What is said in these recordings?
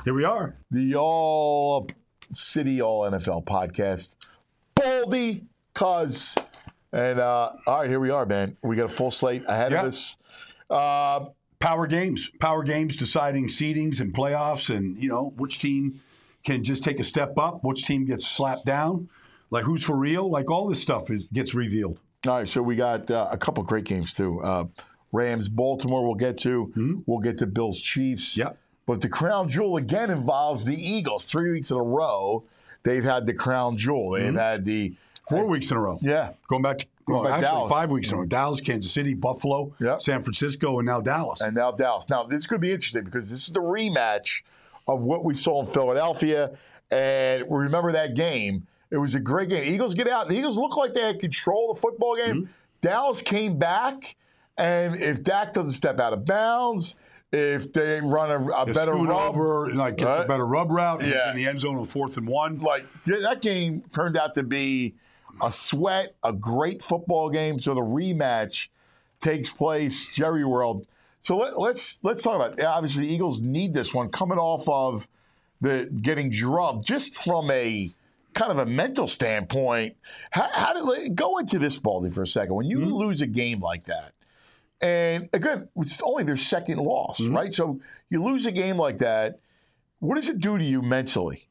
Here we are. The All City, All NFL podcast. Baldy, Cuz. And, all right, here we are, man. We got a full slate ahead of us. Power games deciding seedings and playoffs and, which team can just take a step up, which team gets slapped down, like who's for real, like all this stuff gets revealed. All right, so we got a couple great games, too. Rams, Baltimore we'll get to. Mm-hmm. We'll get to Bills, Chiefs. Yep. But the crown jewel, again, involves the Eagles. 3 weeks in a row, they've had the crown jewel. They've had the 4 weeks in a row. Yeah. Going back Dallas. 5 weeks in a row. Dallas, Kansas City, Buffalo, San Francisco, and now Dallas. Now, this is going to be interesting because this is the rematch of what we saw in Philadelphia. And remember that game. It was a great game. Eagles get out. The Eagles look like they had control of the football game. Mm-hmm. Dallas came back. And if Dak doesn't step out of bounds, if they run a better rub, gets a better rub route, in the end zone on 4th and 1. That game turned out to be a sweat, a great football game. So the rematch takes place, Jerry World. So let's talk about it. Obviously, the Eagles need this one coming off of the getting drubbed, just from a kind of a mental standpoint. How did go into this, Baldy, for a second? When you lose a game like that. And again, it's only their second loss, right? So you lose a game like that. What does it do to you mentally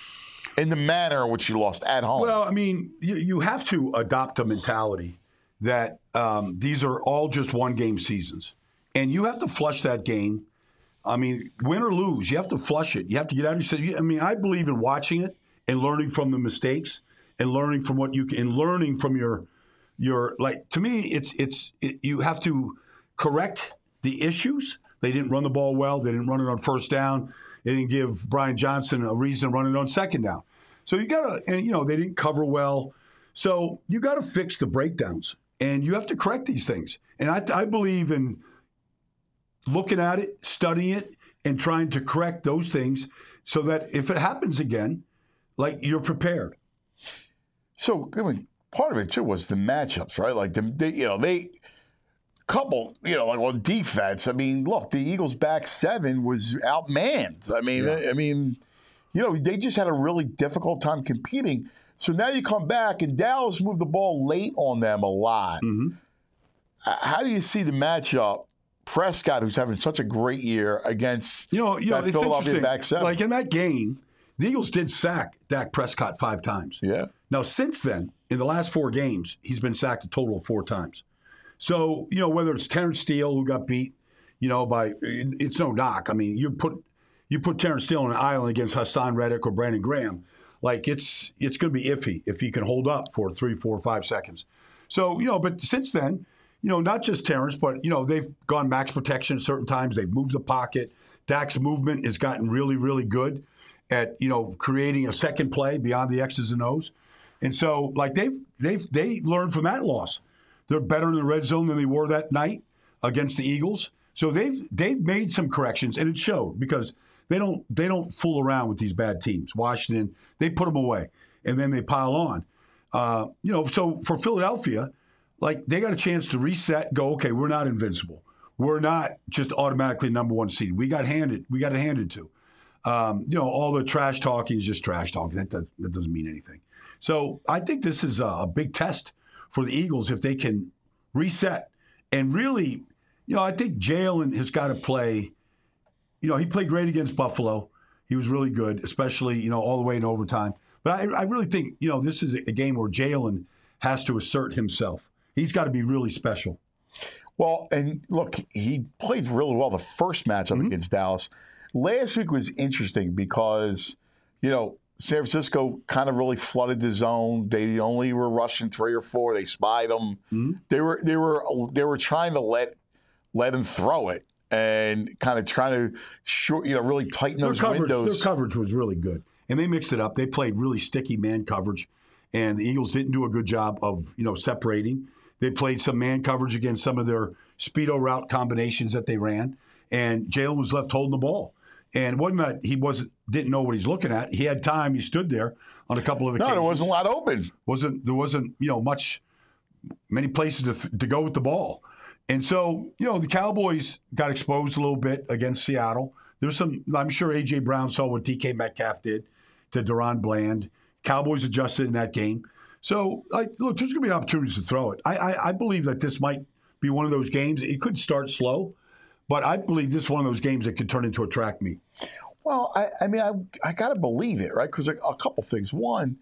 in the manner in which you lost at home? Well, I mean, you have to adopt a mentality that these are all just one-game seasons. And you have to flush that game. I mean, win or lose, you have to flush it. You have to get out of your – I mean, I believe in watching it and learning from the mistakes and learning from what you can – and learning from your like, to me, you have to – correct the issues. They didn't run the ball well. They didn't run it on first down. They didn't give Brian Johnson a reason to run it on second down. So you got to, and they didn't cover well. So you got to fix the breakdowns, and you have to correct these things. And I believe in looking at it, studying it, and trying to correct those things so that if it happens again, like, you're prepared. So, I mean, part of it too was the matchups, right? Like they couple, like on defense. I mean, look, the Eagles' back seven was outmanned. I mean, they just had a really difficult time competing. So now you come back and Dallas moved the ball late on them a lot. Mm-hmm. How do you see the matchup? Prescott, who's having such a great year against that Philadelphia back seven. Like in that game, the Eagles did sack Dak Prescott 5 times. Yeah. Now, since then, in the last 4 games, he's been sacked a total of 4 times. So, whether it's Terrence Steele who got beat, it's no knock. I mean, you put Terrence Steele on an island against Hassan Reddick or Brandon Graham, like it's going to be iffy if he can hold up for 3, 4, 5 seconds. So, but since then, not just Terrence, but, they've gone max protection at certain times. They've moved the pocket. Dak's movement has gotten really, really good at, creating a second play beyond the X's and O's. And so, like, they learned from that loss. They're better in the red zone than they were that night against the Eagles. So they've made some corrections, and it showed because they don't fool around with these bad teams. Washington, they put them away, and then they pile on. So for Philadelphia, like, they got a chance to reset, go, okay, we're not invincible. We're not just automatically number 1 seed. We got it handed to. All the trash talking is just trash talking. That doesn't mean anything. So I think this is a big test for the Eagles if they can reset. And really, I think Jalen has got to play. He played great against Buffalo. He was really good, especially, all the way in overtime. But I really think, this is a game where Jalen has to assert himself. He's got to be really special. Well, and look, he played really well the first matchup against Dallas. Last week was interesting because, San Francisco kind of really flooded the zone. They only were rushing 3 or 4. They spied them. Mm-hmm. They were trying to let him throw it and kind of trying to really tighten those windows. Their coverage was really good, and they mixed it up. They played really sticky man coverage, and the Eagles didn't do a good job of separating. They played some man coverage against some of their speedo route combinations that they ran, and Jalen was left holding the ball. And it wasn't that he didn't know what he's looking at. He had time. He stood there on a couple of occasions. No, there wasn't a lot open. There wasn't many places to go with the ball. And so, the Cowboys got exposed a little bit against Seattle. There's some. I'm sure A.J. Brown saw what DK Metcalf did to Deron Bland. Cowboys adjusted in that game. So, look, there's going to be opportunities to throw it. I believe that this might be one of those games. It could start slow, but I believe this is one of those games that could turn into a track meet. Well, I got to believe it, right? Because a couple things. One,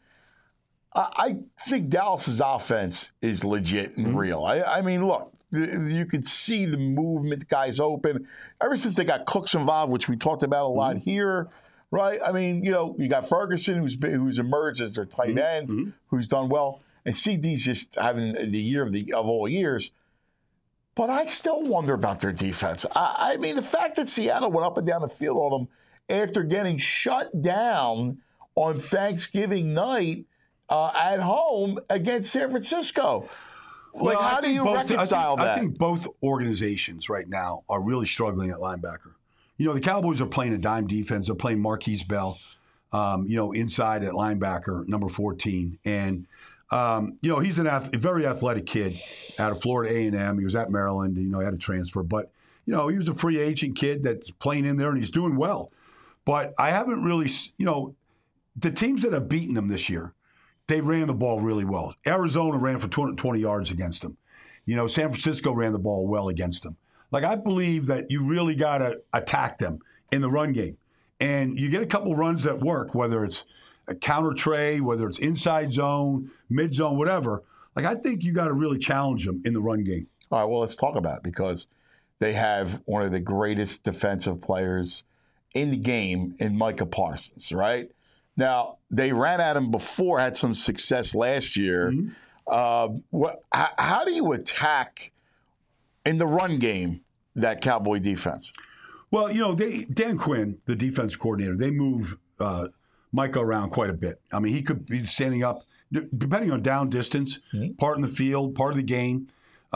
I think Dallas's offense is legit and real. I mean, look, you could see the movement, the guys open. Ever since they got Cooks involved, which we talked about a lot here, right? I mean, you got Ferguson, who's emerged as their tight end, who's done well, and CD's just having the year of all years. But I still wonder about their defense. I mean, the fact that Seattle went up and down the field on them after getting shut down on Thanksgiving night at home against San Francisco. Like, how do you reconcile that? I think both organizations right now are really struggling at linebacker. You know, the Cowboys are playing a dime defense. They're playing Marquise Bell, inside at linebacker, number 14. And, he's a very athletic kid out of Florida A&M. He was at Maryland. He had a transfer. But, he was a free agent kid that's playing in there, and he's doing well. But I haven't really, the teams that have beaten them this year, they ran the ball really well. Arizona ran for 220 yards against them. San Francisco ran the ball well against them. Like, I believe that you really got to attack them in the run game. And you get a couple runs that work, whether it's a counter tray, whether it's inside zone, mid zone, whatever. Like, I think you got to really challenge them in the run game. All right, well, let's talk about it because they have one of the greatest defensive players in the game in Micah Parsons, right? Now, they ran at him before, had some success last year. How do you attack in the run game that Cowboy defense? Well, Dan Quinn, the defense coordinator, they move Micah around quite a bit. I mean, he could be standing up, depending on down distance, part in the field, part of the game.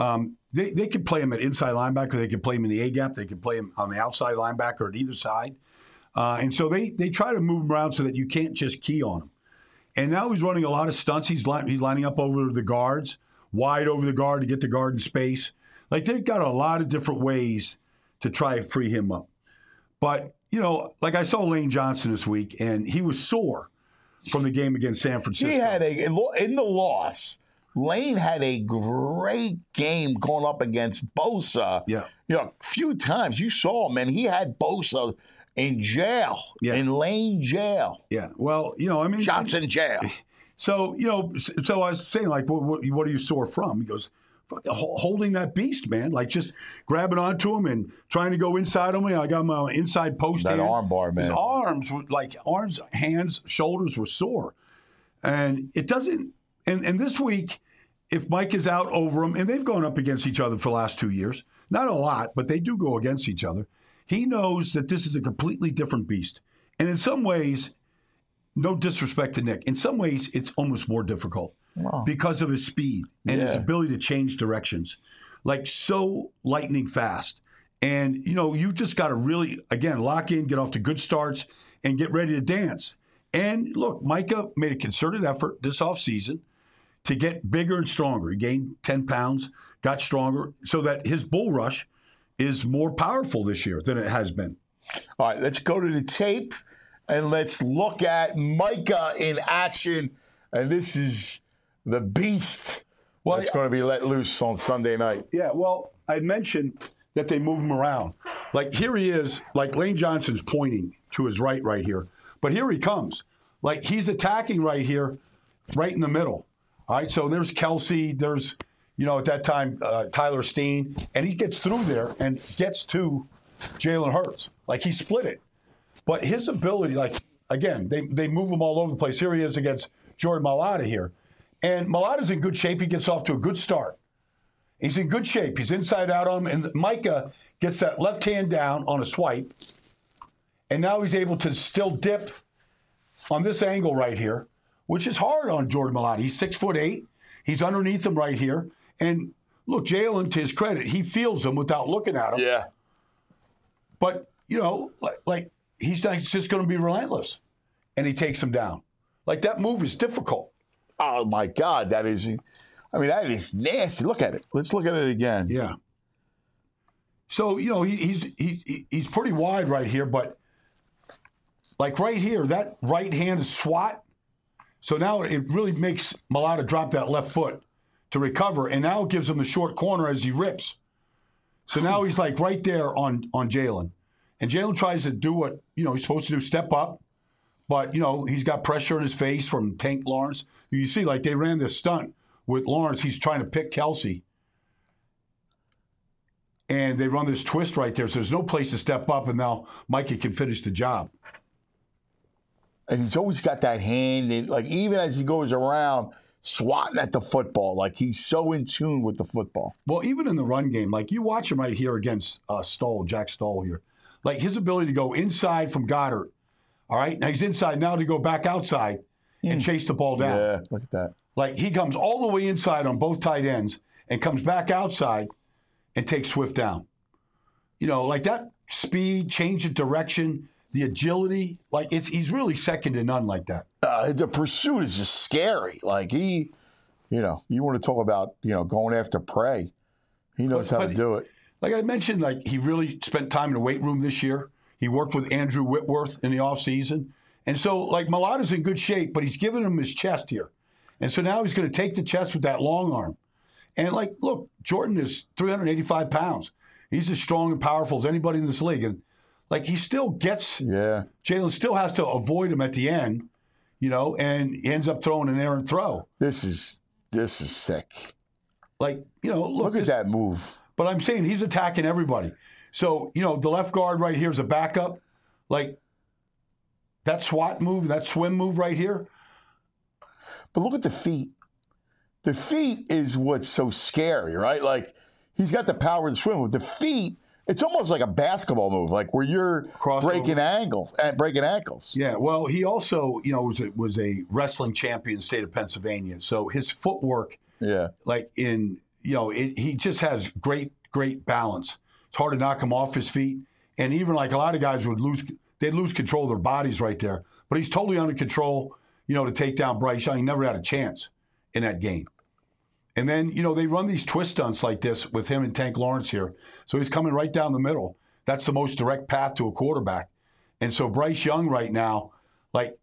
They could play him at inside linebacker. They could play him in the A-gap. They could play him on the outside linebacker at either side. And so they try to move him around so that you can't just key on him. And now he's running a lot of stunts. He's lining up over the guards, wide over the guard to get the guard in space. Like, they've got a lot of different ways to try to free him up. But, like I saw Lane Johnson this week, and he was sore from the game against San Francisco. He had in the loss, Lane had a great game going up against Bosa. Yeah. A few times you saw him, and he had Bosa in jail, in Lane jail. Yeah, well, Johnson jail. So, so I was saying, like, what are you sore from? He goes, holding that beast, man. Like, just grabbing onto him and trying to go inside him. I got my inside post. That arm bar, man. His arms, hands, shoulders were sore. And it doesn't, and this week, if Mike is out over him, and they've gone up against each other for the last 2 years, not a lot, but they do go against each other. He knows that this is a completely different beast. And in some ways, no disrespect to Nick, in some ways it's almost more difficult because of his speed and his ability to change directions. Like, so lightning fast. And, you just got to really, again, lock in, get off to good starts, and get ready to dance. And look, Micah made a concerted effort this offseason to get bigger and stronger. He gained 10 pounds, got stronger, so that his bull rush is more powerful this year than it has been. All right, let's go to the tape and let's look at Micah in action. And this is the beast that's going to be let loose on Sunday night. Yeah, well, I mentioned that they move him around. Like, here he is, like Lane Johnson's pointing to his right here. But here he comes. Like, he's attacking right here, right in the middle. All right, so there's Kelsey, there's, at that time, Tyler Steen, and he gets through there and gets to Jalen Hurts. Like, he split it. But his ability, like, again, they move him all over the place. Here he is against Jordan Mailata here. And Mailata's in good shape. He gets off to a good start. He's in good shape. He's inside out on him. And Micah gets that left hand down on a swipe. And now he's able to still dip on this angle right here, which is hard on Jordan Mailata. He's 6'8". He's underneath him right here. And look, Jalen, to his credit, he feels him without looking at him. Yeah. But, like he's just going to be relentless. And he takes him down. Like, that move is difficult. Oh, my God. That is nasty. Look at it. Let's look at it again. Yeah. So, he's pretty wide right here, but like right here, that right hand is swat. So now it really makes Mailata drop that left foot to recover, and now it gives him the short corner as he rips. So now he's like right there on Jalen. And Jalen tries to do what, he's supposed to do, step up. But, he's got pressure in his face from Tank Lawrence. You see, like they ran this stunt with Lawrence. He's trying to pick Kelsey. And they run this twist right there. So there's no place to step up, and now Mikey can finish the job. And he's always got that hand, and like even as he goes around swatting at the football, like he's so in tune with the football. Well, even in the run game, like you watch him right here against Jack Stoll here. Like his ability to go inside from Goddard. All right, now he's inside now to go back outside and chase the ball down. Yeah, look at that. Like he comes all the way inside on both tight ends and comes back outside and takes Swift down. Like that speed, change of direction, the agility, like he's really second to none like that. The pursuit is just scary. Like you want to talk about, going after prey. He knows how to do it. Like I mentioned, like he really spent time in the weight room this year. He worked with Andrew Whitworth in the offseason. And so, like, Mailata's in good shape, but he's giving him his chest here. And so now he's going to take the chest with that long arm. And, like, look, Jordan is 385 pounds. He's as strong and powerful as anybody in this league. And, like, he still gets – Jalen still has to avoid him at the end, and he ends up throwing an errant throw. This is sick. Like, look at that move. But I'm saying he's attacking everybody. So, the left guard right here is a backup. Like, that swat move, that swim move right here. But look at the feet. The feet is what's so scary, right? Like, he's got the power to swim with the feet. It's almost like a basketball move, like where you're breaking ankles. Yeah, well, he also, was a wrestling champion in the state of Pennsylvania. So his footwork, like he just has great balance. It's hard to knock him off his feet. And even like a lot of guys they'd lose control of their bodies right there. But he's totally under control, to take down Bryce Young. He never had a chance in that game. And then, they run these twist stunts like this with him and Tank Lawrence here. So he's coming right down the middle. That's the most direct path to a quarterback. And so Bryce Young right now, like,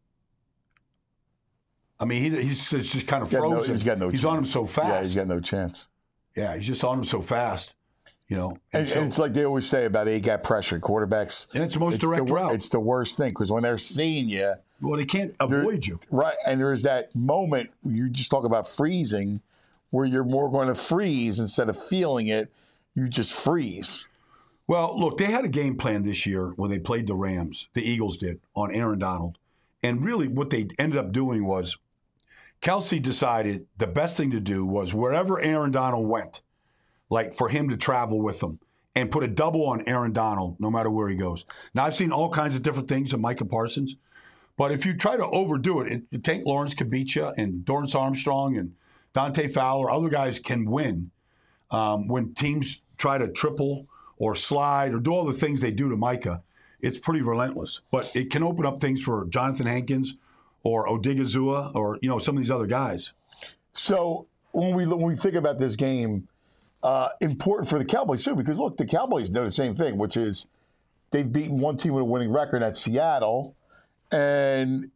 I mean, he's just kind of frozen. He's got no chance. He's on him so fast. Yeah, he's got no chance. Yeah, he's just on him so fast. And it's like they always say about A-gap pressure, quarterbacks. And it's the most direct route. It's the worst thing because when they're seeing you. Well, they can't avoid you. Right. And there's that moment, you just talk about freezing, where you're more going to freeze instead of feeling it. You just freeze. Well, look, they had a game plan this year when they played the Rams, the Eagles did, on Aaron Donald. And really what they ended up doing was Kelsey decided the best thing to do was wherever Aaron Donald went, like for him to travel with them and put a double on Aaron Donald no matter where he goes. Now, I've seen all kinds of different things of Micah Parsons, but if you try to overdo it, Tank Lawrence could beat you, and Dorrance Armstrong and Dante Fowler, other guys can win when teams try to triple or slide or do all the things they do to Micah. It's pretty relentless, but it can open up things for Jonathan Hankins or Odigizua or some of these other guys. So when we think about this game, important for the Cowboys too, because look, the Cowboys know the same thing, which is they've beaten one team with a winning record at Seattle, and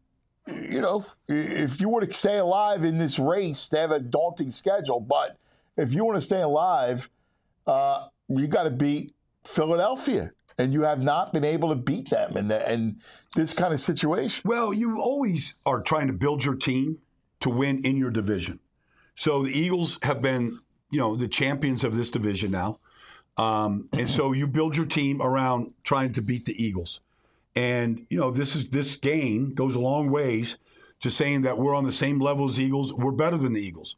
if you want to stay alive in this race, they have a daunting schedule. But if you want to stay alive, you got to beat Philadelphia, and you have not been able to beat them in this kind of situation. Well, you always are trying to build your team to win in your division. So the Eagles have been, the champions of this division now. And so you build your team around trying to beat the Eagles. And, this game goes a long ways to saying that we're on the same level as the Eagles. We're better than the Eagles.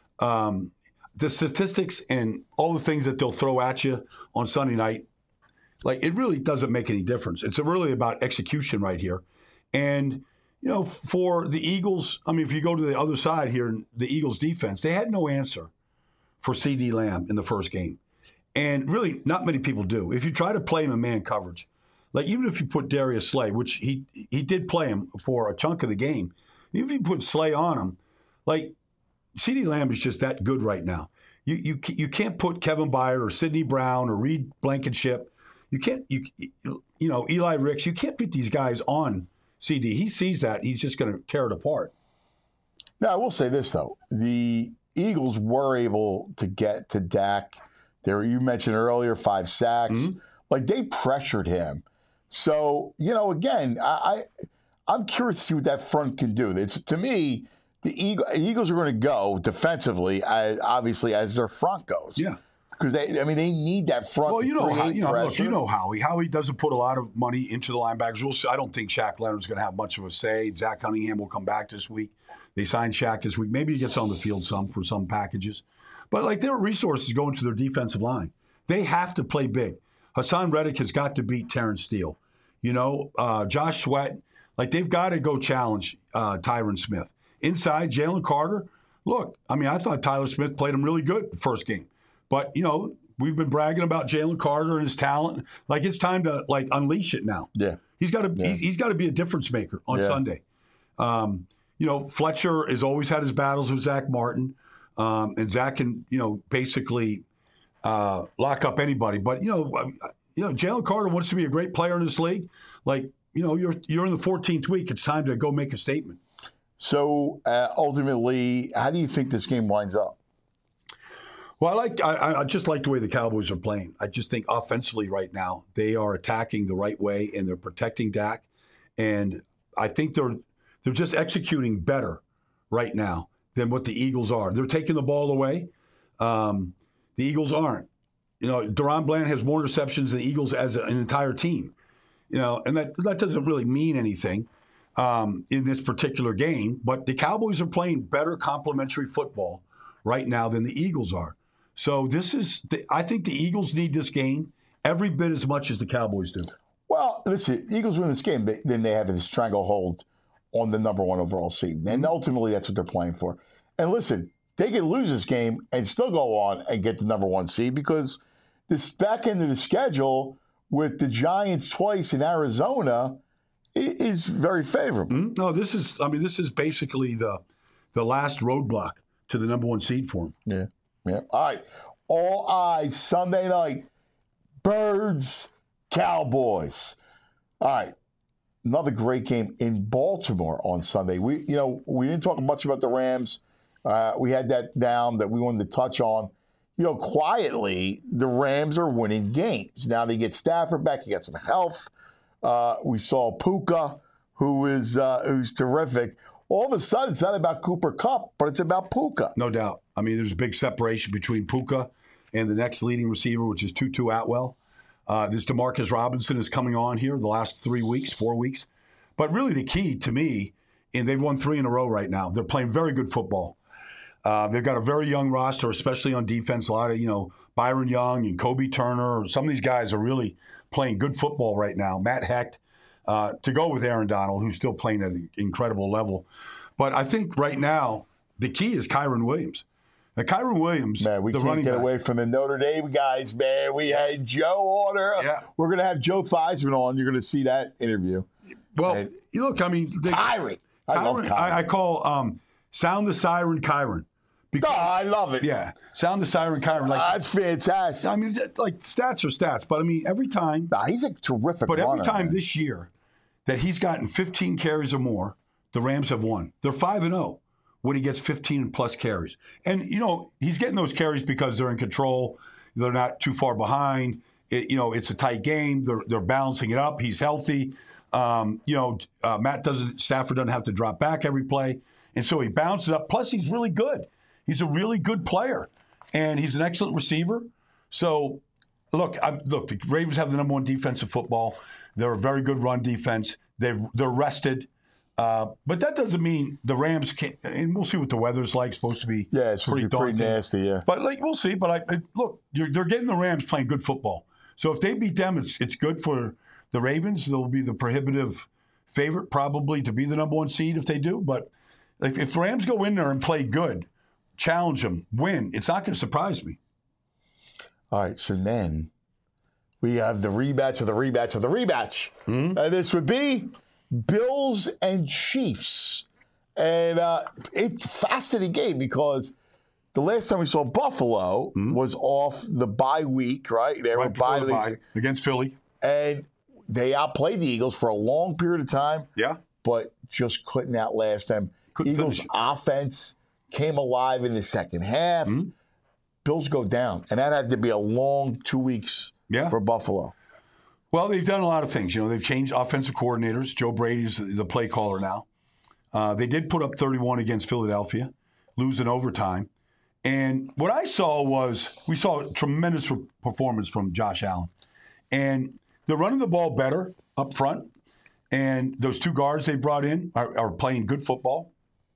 The statistics and all the things that they'll throw at you on Sunday night, like it really doesn't make any difference. It's really about execution right here. And, for the Eagles, I mean, if you go to the other side here, the Eagles defense, they had no answer for CeeDee Lamb in the first game. And really, not many people do. If you try to play him in man coverage, like even if you put Darius Slay, which he did play him for a chunk of the game, even if you put Slay on him, like CeeDee Lamb is just that good right now. You can't put Kevin Byard or Sidney Brown or Reed Blankenship. You can't Eli Ricks. You can't put these guys on CD. He sees that. He's just going to tear it apart. Now, I will say this, though. The Eagles were able to get to Dak. You mentioned earlier, 5 sacks. Mm-hmm. Like, they pressured him. So, again, I'm curious to see what that front can do. To me, the Eagles are going to go defensively, obviously, as their front goes. Yeah. Because they need that front. Well, to Howie. Howie doesn't put a lot of money into the linebackers. I don't think Shaq Leonard's going to have much of a say. Zach Cunningham will come back this week. They signed Shaq this week. Maybe he gets on the field for some packages. But, there are resources going to their defensive line. They have to play big. Hassan Reddick has got to beat Terrence Steele. Josh Sweat. They've got to go challenge Tyron Smith. Inside, Jalen Carter. Look, I thought Tyler Smith played him really good the first game. But, we've been bragging about Jalen Carter and his talent. It's time to, unleash it now. Yeah. He's got to be a difference maker on Sunday. Fletcher has always had his battles with Zach Martin. And Zach can, basically lock up anybody. But, Jalen Carter wants to be a great player in this league. You're in the 14th week. It's time to go make a statement. So, ultimately, how do you think this game winds up? Well, I just like the way the Cowboys are playing. I just think offensively right now, they are attacking the right way and they're protecting Dak. And I think they're just executing better right now than what the Eagles are. They're taking the ball away. The Eagles aren't. Deron Bland has more receptions than the Eagles as an entire team. And that doesn't really mean anything in this particular game. But the Cowboys are playing better complementary football right now than the Eagles are. So I think the Eagles need this game every bit as much as the Cowboys do. Well, listen, Eagles win this game, then they have this stranglehold on the number 1 overall seed. And ultimately, that's what they're playing for. And listen, they can lose this game and still go on and get the number 1 seed because this back end of the schedule with the Giants twice in Arizona is very favorable. Mm-hmm. No, this is basically the last roadblock to the number 1 seed for them. Yeah. Yeah. All right. All eyes Sunday night. Birds, Cowboys. All right. Another great game in Baltimore on Sunday. We didn't talk much about the Rams. We had that down that we wanted to touch on. Quietly, the Rams are winning games. Now they get Stafford back. He got some health. We saw Puka, who's terrific. All of a sudden, it's not about Cooper Kupp, but it's about Puka. No doubt. There's a big separation between Puka and the next leading receiver, which is Tutu Atwell. This DeMarcus Robinson is coming on here the last 4 weeks. But really the key to me, and they've won 3 in a row right now. They're playing very good football. They've got a very young roster, especially on defense. A lot of, Byron Young and Kobe Turner. Some of these guys are really playing good football right now. Matt Hecht, to go with Aaron Donald, who's still playing at an incredible level. But I think right now the key is Kyren Williams. Now, Kyren Williams, man, we can't get away from the Notre Dame guys, man. We had Joe Order. Yeah. We're going to have Joe Theismann on. You're going to see that interview. Well, look, Kyren. I love Kyren. I call Sound the Siren Kyren. I love it. Yeah. Sound the Siren Kyren. That's fantastic. Stats are stats. But, every time. He's a terrific But runner, every time man. this year that he's gotten 15 carries or more, the Rams have won. They're 5-0. When he gets 15-plus carries. And, he's getting those carries because they're in control. They're not too far behind. It's a tight game. They're balancing it up. He's healthy. Stafford doesn't have to drop back every play. And so he bounces up. Plus, he's really good. He's a really good player. And he's an excellent receiver. So, look, the Ravens have the number 1 defensive football. They're a very good run defense. They're rested. But that doesn't mean the Rams can't, and we'll see what the weather's like. It's supposed to be it's pretty nasty, yeah. But we'll see. But look, they're getting the Rams playing good football. So if they beat them, it's good for the Ravens. They'll be the prohibitive favorite probably to be the number 1 seed if they do. But if the Rams go in there and play good, challenge them, win, it's not going to surprise me. All right, so then we have the rematch of the rematch of the rematch. Mm-hmm. And this would be Bills and Chiefs. And it's a fascinating game because the last time we saw Buffalo was off the bye week, right? They were bye against Philly. And they outplayed the Eagles for a long period of time. Yeah. But just couldn't outlast them. Eagles offense came alive in the second half. Bills go down. And that had to be a long 2 weeks for Buffalo. Well, they've done a lot of things. They've changed offensive coordinators. Joe Brady's the play caller now. They did put up 31 against Philadelphia, lose in overtime. And what I saw was we saw a tremendous performance from Josh Allen. And they're running the ball better up front. And those two guards they brought in are playing good football.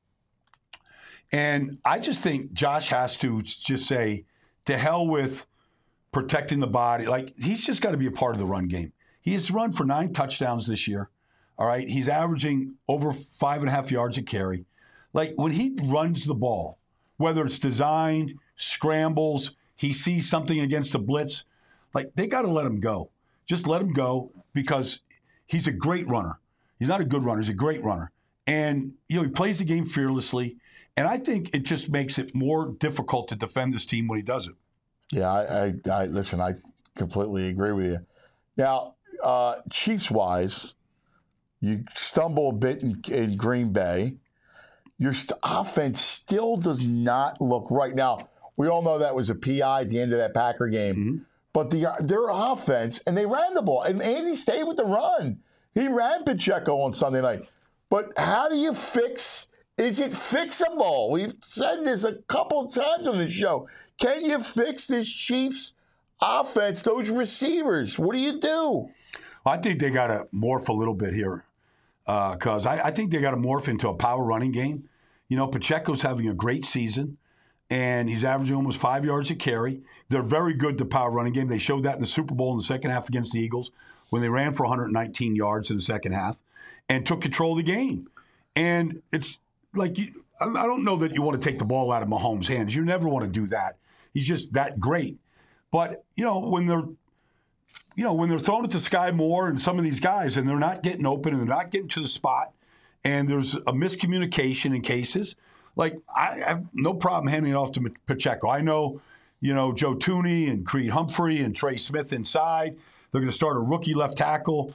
And I just think Josh has to just say, to hell with protecting the body. Like, he's just got to be a part of the run game. He has run for 9 touchdowns this year. All right. He's averaging over 5.5 yards a carry. Like, when he runs the ball, whether it's designed, scrambles, he sees something against the blitz, like, they got to let him go. Just let him go, because he's a great runner. He's not a good runner. He's a great runner. And, he plays the game fearlessly. And I think it just makes it more difficult to defend this team when he does it. Yeah, I listen, I completely agree with you. Now, Chiefs-wise, you stumble a bit in Green Bay. Your offense still does not look right. Now, we all know that was a PI at the end of that Packer game. But their offense, and they ran the ball. And Andy stayed with the run. He ran Pacheco on Sunday night. But how do you fix? Is it fixable? We've said this a couple of times on the show. Can you fix this Chiefs offense, those receivers? What do you do? I think they got to morph a little bit here, because I think they got to morph into a power running game. Pacheco's having a great season, and he's averaging almost 5 yards a carry. They're very good to power running game. They showed that in the Super Bowl in the second half against the Eagles when they ran for 119 yards in the second half and took control of the game. And it's like, I don't know that you want to take the ball out of Mahomes' hands. You never want to do that. He's just that great. But, when they're throwing it to Sky Moore and some of these guys, and they're not getting open and they're not getting to the spot, and there's a miscommunication in cases, like, I have no problem handing it off to Pacheco. I know, Joe Thuney and Creed Humphrey and Trey Smith inside. They're going to start a rookie left tackle,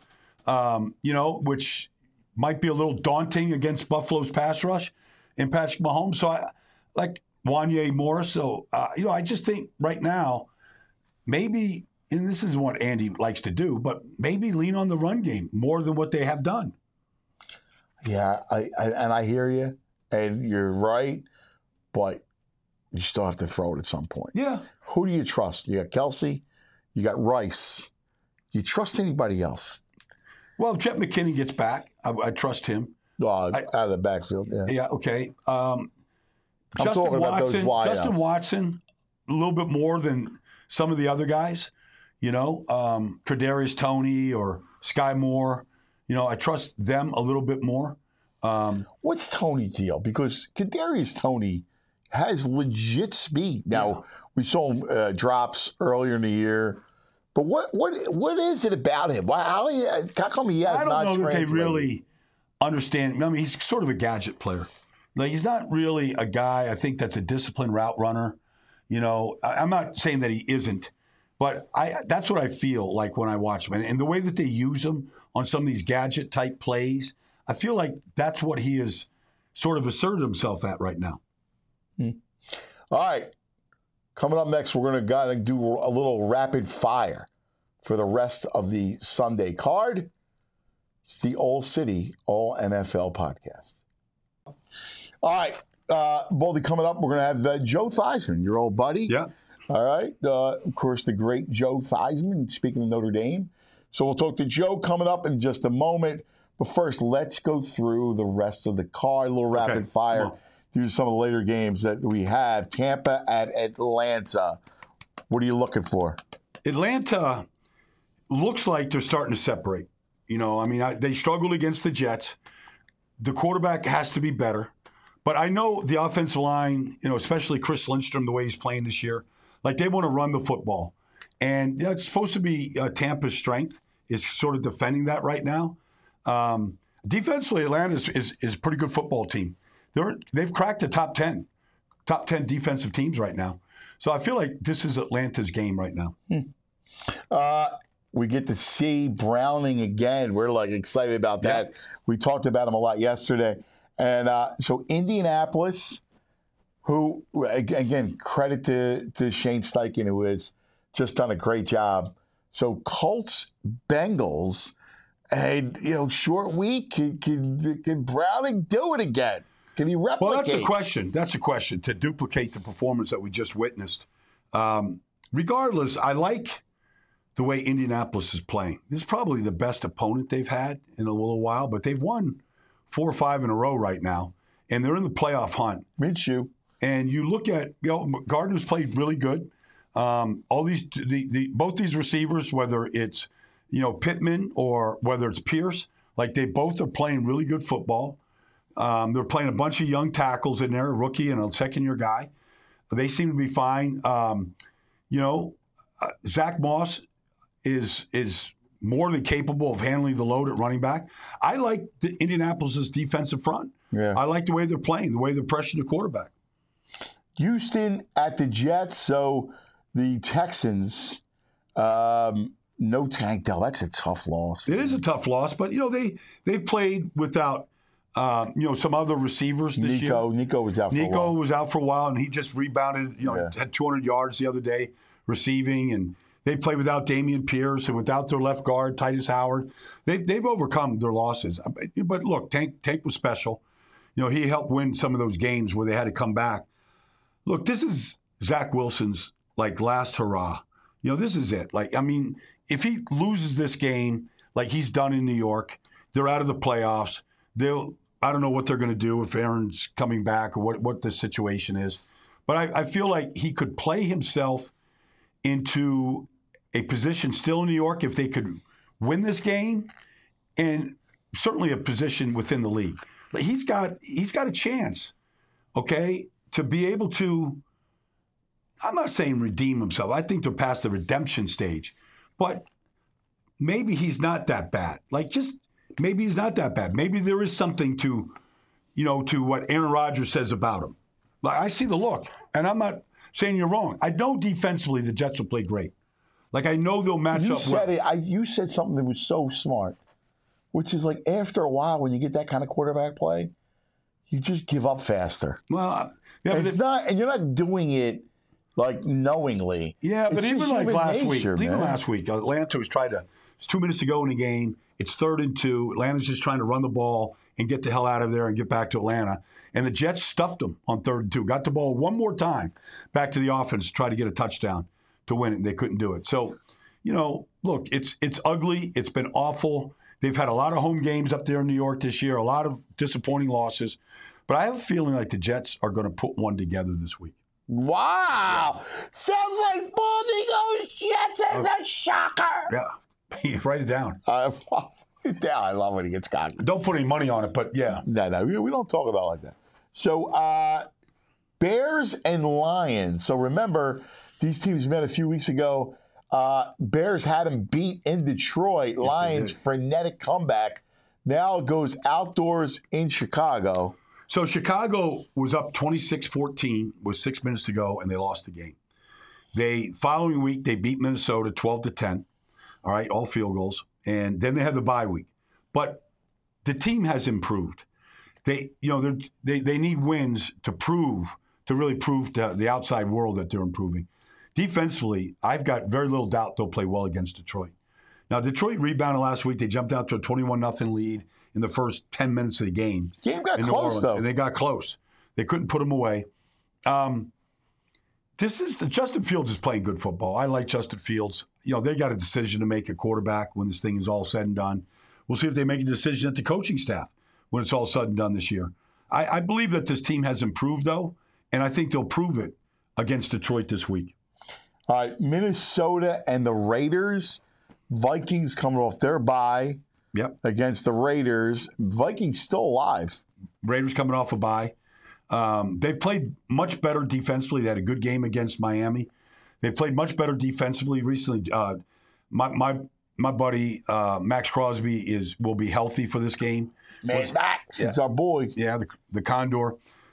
which might be a little daunting against Buffalo's pass rush and Patrick Mahomes. So, like Wanya Morris. So, I just think right now, maybe, and this is what Andy likes to do, but maybe lean on the run game more than what they have done. Yeah, I hear you, and you're right, but you still have to throw it at some point. Yeah. Who do you trust? You got Kelsey, you got Rice. Do you trust anybody else? Well, if Jet McKinney gets back, I trust him. Out of the backfield, yeah. Yeah, okay. Justin Watson, a little bit more than some of the other guys. Kadarius Toney or Sky Moore. I trust them a little bit more. What's Toney's deal? Because Kadarius Toney has legit speed. Now, we saw him drops earlier in the year. But what is it about him? How come he has not translated? I don't know that they really understand. I mean, he's sort of a gadget player. Like, he's not really a guy, I think, that's a disciplined route runner. I'm not saying that he isn't, but that's what I feel like when I watch him. And the way that they use him on some of these gadget-type plays, I feel like that's what he has sort of asserted himself at right now. All right. Coming up next, we're going to do a little rapid fire for the rest of the Sunday card. It's the All City, All NFL podcast. All right. Baldy, coming up, we're going to have Joe Theismann, your old buddy. Yeah. All right. Of course, the great Joe Theismann, speaking of Notre Dame. So we'll talk to Joe coming up in just a moment. But first, let's go through the rest of the card, a little rapid fire. Through some of the later games that we have. Tampa at Atlanta. What are you looking for? Atlanta looks like they're starting to separate. They struggled against the Jets. The quarterback has to be better. But I know the offensive line, especially Chris Lindstrom, the way he's playing this year, like, they want to run the football. And that's supposed to be Tampa's strength, is sort of defending that right now. Defensively, Atlanta is a pretty good football team. They've cracked the top 10 top 10 defensive teams right now. So I feel like this is Atlanta's game right now. We get to see Browning again. We're like excited about that. Yeah. We talked about him a lot yesterday. And so Indianapolis, who, again, credit to Shane Steichen, who has just done a great job. So Colts, Bengals, and, short week. Can Browning do it again? Can he replicate? Well, that's the question. That's the question, to duplicate the performance that we just witnessed. Regardless, I like the way Indianapolis is playing. This is probably the best opponent they've had in a little while, but they've won 4 or 5 in a row right now, and they're in the playoff hunt. Minshew. And you look at, Gardner's played really good. All these, both these receivers, whether it's, Pittman or whether it's Pierce, like they both are playing really good football. They're playing a bunch of young tackles in there, a rookie and a second-year guy. They seem to be fine. Zach Moss is more than capable of handling the load at running back. I like Indianapolis' defensive front. Yeah. I like the way they're playing, the way they're pressuring the quarterback. Houston at the Jets. So the Texans, no Tank Dell. That's a tough loss. It is a tough loss, but they've played without some other receivers this year. Nico was out for a while. Nico was out for a while, and he just rebounded. Had 200 yards the other day receiving, and they played without Damian Pierce and without their left guard, Titus Howard. They've overcome their losses. But look, Tank was special. He helped win some of those games where they had to come back. Look, this is Zach Wilson's last hurrah. This is it. If he loses this game like he's done in New York, they're out of the playoffs. I don't know what they're going to do if Aaron's coming back or what the situation is. But I feel like he could play himself into a position still in New York if they could win this game, and certainly a position within the league. He's got a chance, okay, to be able to, I'm not saying redeem himself. I think they're past the redemption stage. But maybe he's not that bad. Maybe he's not that bad. Maybe there is something to what Aaron Rodgers says about him. I see the look, and I'm not saying you're wrong. I know defensively the Jets will play great. I know they'll match up well. You said something that was so smart, which is after a while when you get that kind of quarterback play, you just give up faster. Well, yeah, and you're not doing it knowingly. Yeah, but even last week, Atlanta was trying to. It's 2 minutes to go in the game. It's 3rd and 2. Atlanta's just trying to run the ball and get the hell out of there and get back to Atlanta. And the Jets stuffed them on 3rd and 2. Got the ball one more time back to the offense to try to get a touchdown to win it, and they couldn't do it. So, look, it's ugly. It's been awful. They've had a lot of home games up there in New York this year, a lot of disappointing losses. But I have a feeling like the Jets are going to put one together this week. Wow. Sounds like Baldy goes Jets as a shocker. Yeah. Write it down. I love when he gets cocky. Don't put any money on it, but yeah. No, we don't talk about it like that. So, Bears and Lions. So remember, these teams met a few weeks ago. Bears had them beat in Detroit. Yes, Lions, frenetic comeback. Now it goes outdoors in Chicago. So Chicago was up 26-14 with 6 minutes to go, and they lost the game. Following week, they beat Minnesota 12-10. All right, all field goals. And then they had the bye week. But the team has improved. They need wins to really prove to the outside world that they're improving. Defensively, I've got very little doubt they'll play well against Detroit. Now, Detroit rebounded last week. They jumped out to a 21-0 lead in the first 10 minutes of the game. Game got close, though. And they got close. They couldn't put them away. Justin Fields is playing good football. I like Justin Fields. They got a decision to make at quarterback when this thing is all said and done. We'll see if they make a decision at the coaching staff when it's all said and done this year. I believe that this team has improved, though, and I think they'll prove it against Detroit this week. All right, Minnesota and the Raiders. Vikings coming off their bye against the Raiders. Vikings still alive. Raiders coming off a bye. They've played much better defensively. They had a good game against Miami. They played much better defensively recently. My buddy Max Crosby will be healthy for this game. Max, it's our boy. Yeah, the Condor.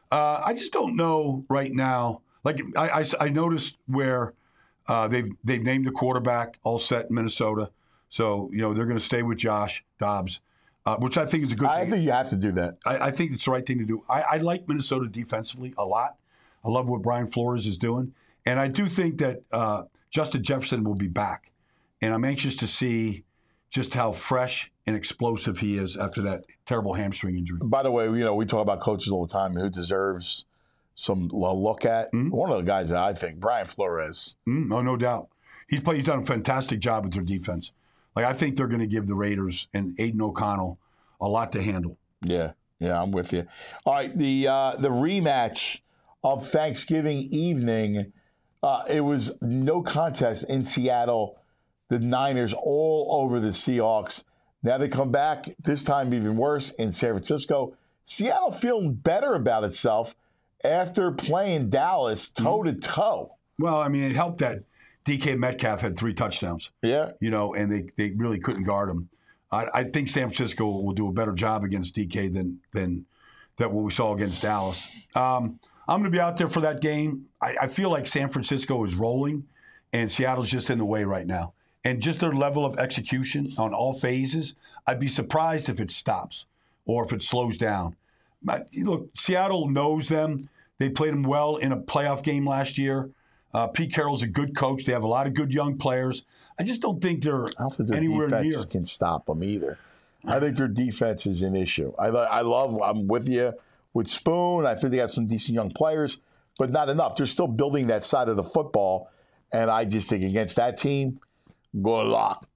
I just don't know right now. Like I noticed where they've named the quarterback all set in Minnesota, so they're going to stay with Josh Dobbs, which I think is a good thing. I think you have to do that. I think it's the right thing to do. I like Minnesota defensively a lot. I love what Brian Flores is doing, and I do think that Justin Jefferson will be back, and I'm anxious to see just how fresh and explosive he is after that terrible hamstring injury. By the way, we talk about coaches all the time who deserves some look at. Mm-hmm. One of the guys that I think, Brian Flores. No doubt. He's done a fantastic job with their defense. Like, I think they're going to give the Raiders and Aiden O'Connell a lot to handle. Yeah, I'm with you. All right, the rematch of Thanksgiving evening, it was no contest in Seattle. The Niners all over the Seahawks. Now they come back, this time even worse, in San Francisco. Seattle feeling better about itself after playing Dallas toe-to-toe. Well, I mean, it helped that DK Metcalf had 3 touchdowns. Yeah. And they really couldn't guard him. I think San Francisco will do a better job against DK than what we saw against Dallas. I'm going to be out there for that game. I feel like San Francisco is rolling, and Seattle's just in the way right now. And just their level of execution on all phases, I'd be surprised if it stops or if it slows down. But look, Seattle knows them. They played them well in a playoff game last year. Pete Carroll's a good coach. They have a lot of good young players. I just don't think they're anywhere near. Defense can stop them either. I think their defense is an issue. I'm with you with Spoon. I think they have some decent young players, but not enough. They're still building that side of the football. And I just think against that team, good luck.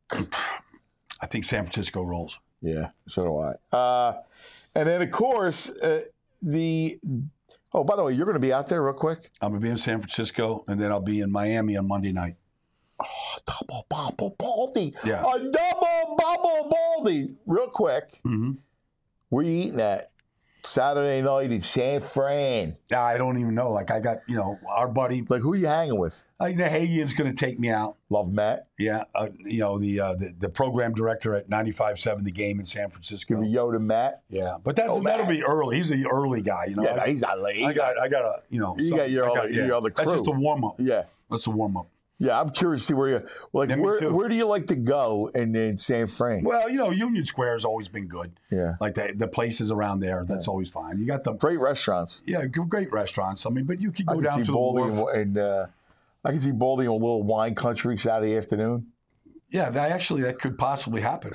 I think San Francisco rolls. Yeah, so do I. And then, of course, by the way, you're going to be out there real quick? I'm going to be in San Francisco, and then I'll be in Miami on Monday night. Oh, double bubble baldy. Yeah. A double bubble baldy. Real quick, where you eating at? Saturday night in San Fran. I don't even know. Like, I got, our buddy. Like, who are you hanging with? Nahagian's going to take me out. Love Matt. Yeah. The program director at 95.7 The Game in San Francisco. Give a yo to Matt. Yeah. But that'll be early. He's an early guy, Yeah, he's not late. I got a, You got your other crew. That's just a warm-up. Yeah. That's a warm-up. Yeah, I'm curious to see where where do you like to go in San Fran? Well, Union Square has always been good. Yeah. Like the places around there, that's always fine. You got the great restaurants. Yeah, great restaurants. I mean, but you could go down to the wharf. And I can see Baldy in a little wine country Saturday afternoon. Yeah, that could possibly happen.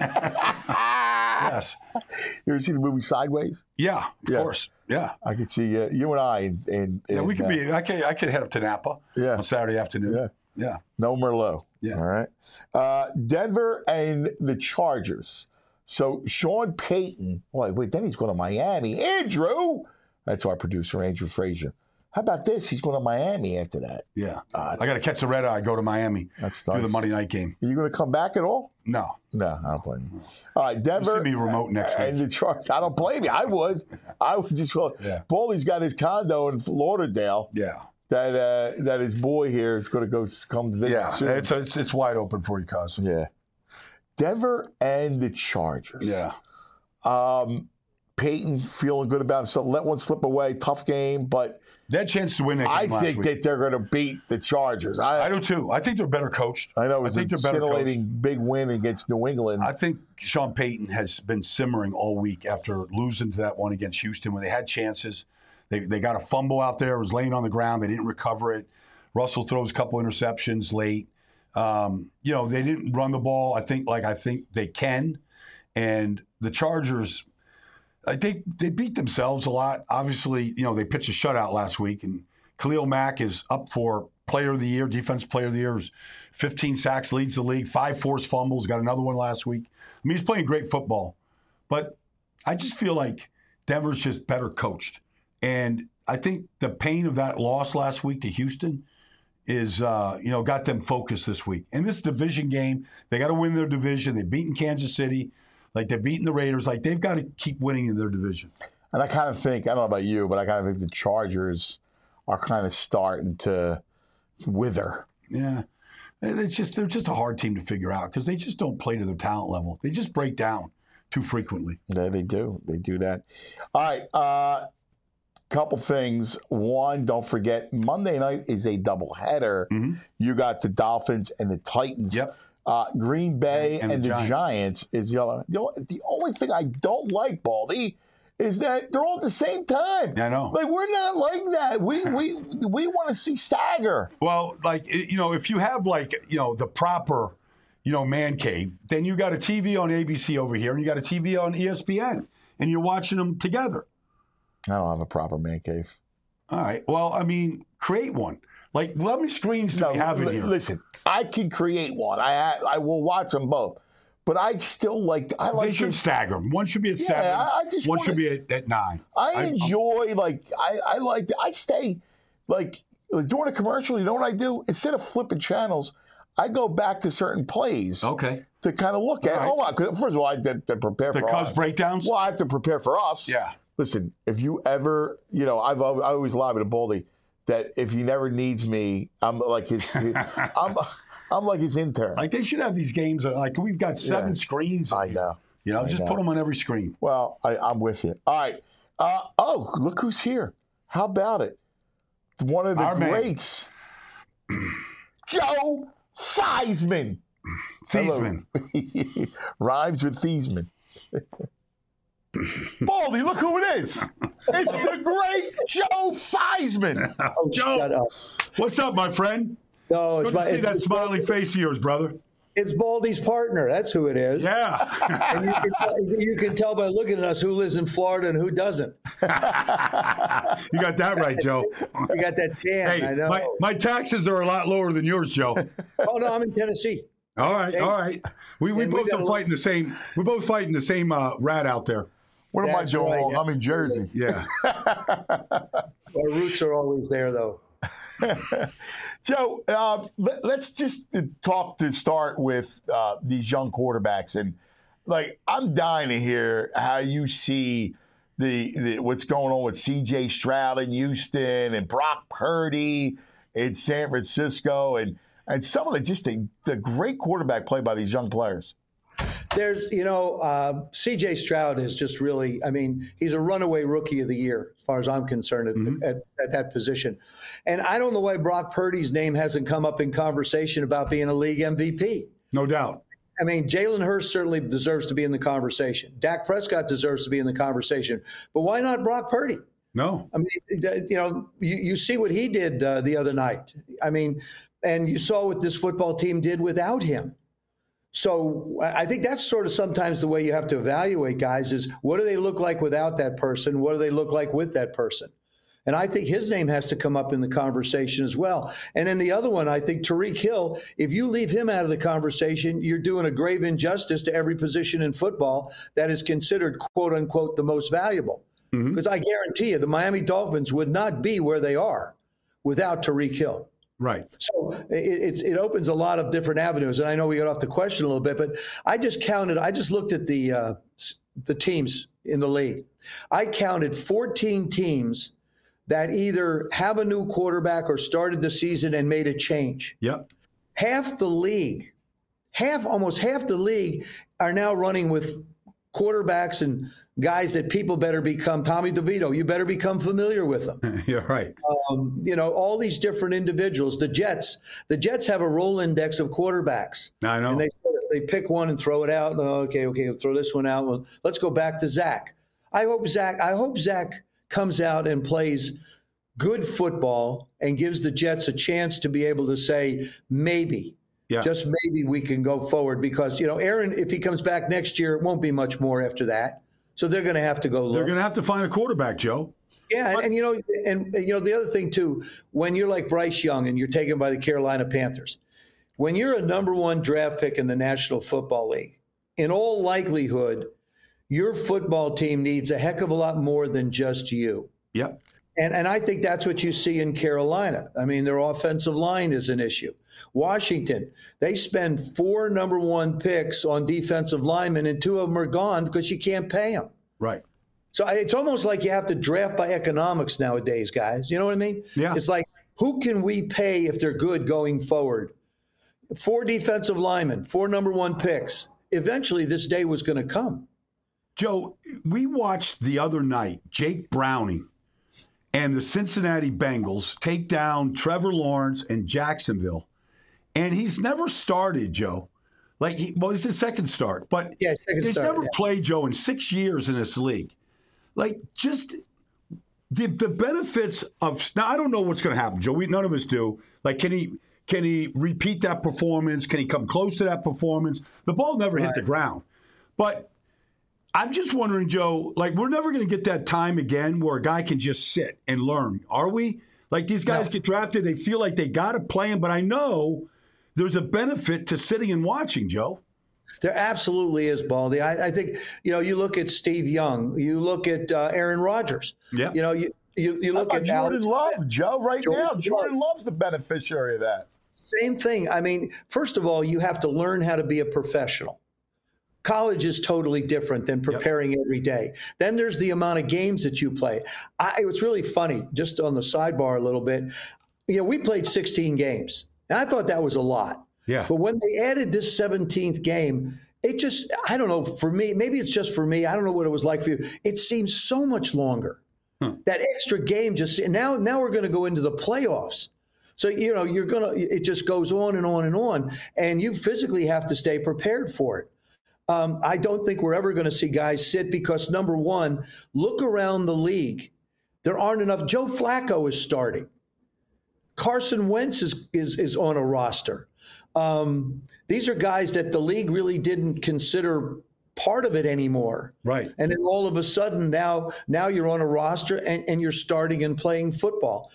Yes. You ever seen the movie Sideways? Yeah, of course. Yeah. I could see you and I. We could be. I could head up to Napa on Saturday afternoon. Yeah. No Merlot. Yeah. All right. Denver and the Chargers. So Sean Payton. Wait, then he's going to Miami. Andrew. That's our producer, Andrew Frazier. How about this? He's going to Miami after that. Yeah. I got to catch the red eye, go to Miami. That's nice. Do the Monday night game. Are you going to come back at all? No. No, I don't blame you. All right, Denver. It's going to be remote next week. And the Chargers. I don't blame you. I would just go. Yeah. Baldy's got his condo in Lauderdale. Yeah. That his boy here is going to come visit soon. It's wide open for you, cuz. Yeah. Denver and the Chargers. Yeah. Peyton feeling good about himself. Let one slip away. Tough game, but they had a chance to win that game I think that they're going to beat the Chargers. I do too. I think they're better coached. I know. I think they're better coached. Scintillating big win against New England. I think Sean Payton has been simmering all week after losing to that one against Houston when they had chances. They got a fumble out there. It was laying on the ground. They didn't recover it. Russell throws a couple interceptions late. They didn't run the ball. I think they can. And the Chargers, they beat themselves a lot. Obviously, they pitched a shutout last week, and Khalil Mack is up for Player of the Year, Defensive Player of the Year. 15 sacks, leads the league, 5 forced fumbles, got another one last week. I mean, he's playing great football. But I just feel like Denver's just better coached. And I think the pain of that loss last week to Houston is, got them focused this week. And this division game, they got to win their division. They've beaten Kansas City. Like, they're beating the Raiders. Like, they've got to keep winning in their division. And I kind of think, I don't know about you, but I kind of think the Chargers are kind of starting to wither. Yeah. They're just a hard team to figure out because they just don't play to their talent level. They just break down too frequently. Yeah, they do. They do that. All right. couple things. One, don't forget, Monday night is a doubleheader. You got the Dolphins and the Titans. Yep. Green Bay and the Giants is the other. The only thing I don't like, Baldy, is that they're all at the same time. I know. Like, we're not like that. We want to see stagger. Well, like, if you have, like, the proper, man cave, then you got a TV on ABC over here and you got a TV on ESPN and you're watching them together. I don't have a proper man cave. All right. Well, I mean, create one. Like, how many screens do we have in here? Listen, I can create one. I will watch them both. But I still like. They should stagger them. One should be at 7. One should be at 9. I enjoy I stay like during a commercial. You know what I do? Instead of flipping channels, I go back to certain plays. Okay. To kind of look at. Right. Hold on. First of all, I have to prepare for the Cubs breakdowns. Well, I have to prepare for us. Yeah. Listen, if you ever, I always lie to Baldy that if he never needs me, I'm like his I'm like his intern. Like, they should have these games. Like, we've got 7 screens. I know. Just put them on every screen. Well, I'm with you. All right. Look who's here. How about it? One of the greats, Joe Theismann. Theismann. Rhymes with Theismann. Baldy, look who it is. It's the great Joe Theismann. Oh, Joe, shut up. What's up, my friend? No, Good to see that smiling face of yours, brother. It's Baldy's partner. That's who it is. Yeah. And you can tell by looking at us who lives in Florida and who doesn't. You got that right, Joe. You got that tan. Hey, I know. my taxes are a lot lower than yours, Joe. Oh no, I'm in Tennessee. All right. We both are fighting the same. We're both fighting the same rat out there. What am I That's doing right, wrong? yeah. I'm in Jersey. Yeah. Our roots are always there, though. Joe, let's just talk to start with these young quarterbacks. And, I'm dying to hear how you see the what's going on with C.J. Stroud in Houston and Brock Purdy in San Francisco and some of the great quarterback play by these young players. There's, C.J. Stroud is just really, he's a runaway rookie of the year, as far as I'm concerned, at that position. And I don't know why Brock Purdy's name hasn't come up in conversation about being a league MVP. No doubt. Jalen Hurts certainly deserves to be in the conversation. Dak Prescott deserves to be in the conversation. But why not Brock Purdy? No. You see what he did the other night. And you saw what this football team did without him. So I think that's sort of sometimes the way you have to evaluate guys is what do they look like without that person? What do they look like with that person? And I think his name has to come up in the conversation as well. And then the other one, I think Tyreek Hill, if you leave him out of the conversation, you're doing a grave injustice to every position in football that is considered, quote unquote, the most valuable. Because I guarantee you the Miami Dolphins would not be where they are without Tyreek Hill. Right. So it opens a lot of different avenues. And I know we got off the question a little bit, but I just looked at the teams in the league. I counted 14 teams that either have a new quarterback or started the season and made a change. Yep. Almost half the league are now running with quarterbacks and guys that people better become. Tommy DeVito, you better become familiar with them. You're right. All these different individuals. The Jets have a roll index of quarterbacks. I know. And they pick one and throw it out. Okay, we'll throw this one out. Well, let's go back to Zach. I hope Zach comes out and plays good football and gives the Jets a chance to be able to say maybe. Yeah. Just maybe we can go forward because, Aaron, if he comes back next year, it won't be much more after that. So they're going to have to go look. They're going to have to find a quarterback, Joe. Yeah, and the other thing, too, when you're like Bryce Young and you're taken by the Carolina Panthers, when you're a number 1 draft pick in the National Football League, in all likelihood, your football team needs a heck of a lot more than just you. Yep. And I think that's what you see in Carolina. Their offensive line is an issue. Washington, they spend 4 number 1 picks on defensive linemen, and 2 of them are gone because you can't pay them. Right. So it's almost like you have to draft by economics nowadays, guys. You know what I mean? Yeah. It's like, who can we pay if they're good going forward? 4 defensive linemen, 4 number 1 picks. Eventually, this day was going to come. Joe, we watched the other night Jake Browning and the Cincinnati Bengals take down Trevor Lawrence and Jacksonville, and he's never started, Joe. It's his second start, but he's never played, Joe, in 6 years in this league. Just the benefits of now. I don't know what's going to happen, Joe. None of us do. Can he repeat that performance? Can he come close to that performance? The ball never hit the ground, but I'm just wondering, Joe. We're never going to get that time again where a guy can just sit and learn, are we? These guys get drafted, they feel like they got to play him, but I know there's a benefit to sitting and watching, Joe. There absolutely is, Baldy. I think, you look at Steve Young, you look at Aaron Rodgers. Yeah. You look at Jordan Love, Joe, now. Jordan Love's the beneficiary of that. Same thing. I mean, first of all, you have to learn how to be a professional. College is totally different than preparing every day. Then there's the amount of games that you play. It's really funny, just on the sidebar a little bit. We played 16 games, and I thought that was a lot. Yeah. But when they added this 17th game, it just, I don't know, for me, maybe it's just for me. I don't know what it was like for you. It seems so much longer. That extra game now we're going to go into the playoffs. So, it just goes on and on and on. And you physically have to stay prepared for it. I don't think we're ever going to see guys sit because, number one, look around the league. There aren't enough. Joe Flacco is starting. Carson Wentz is on a roster. These are guys that the league really didn't consider part of it anymore. Right. And then all of a sudden now you're on a roster and you're starting and playing football.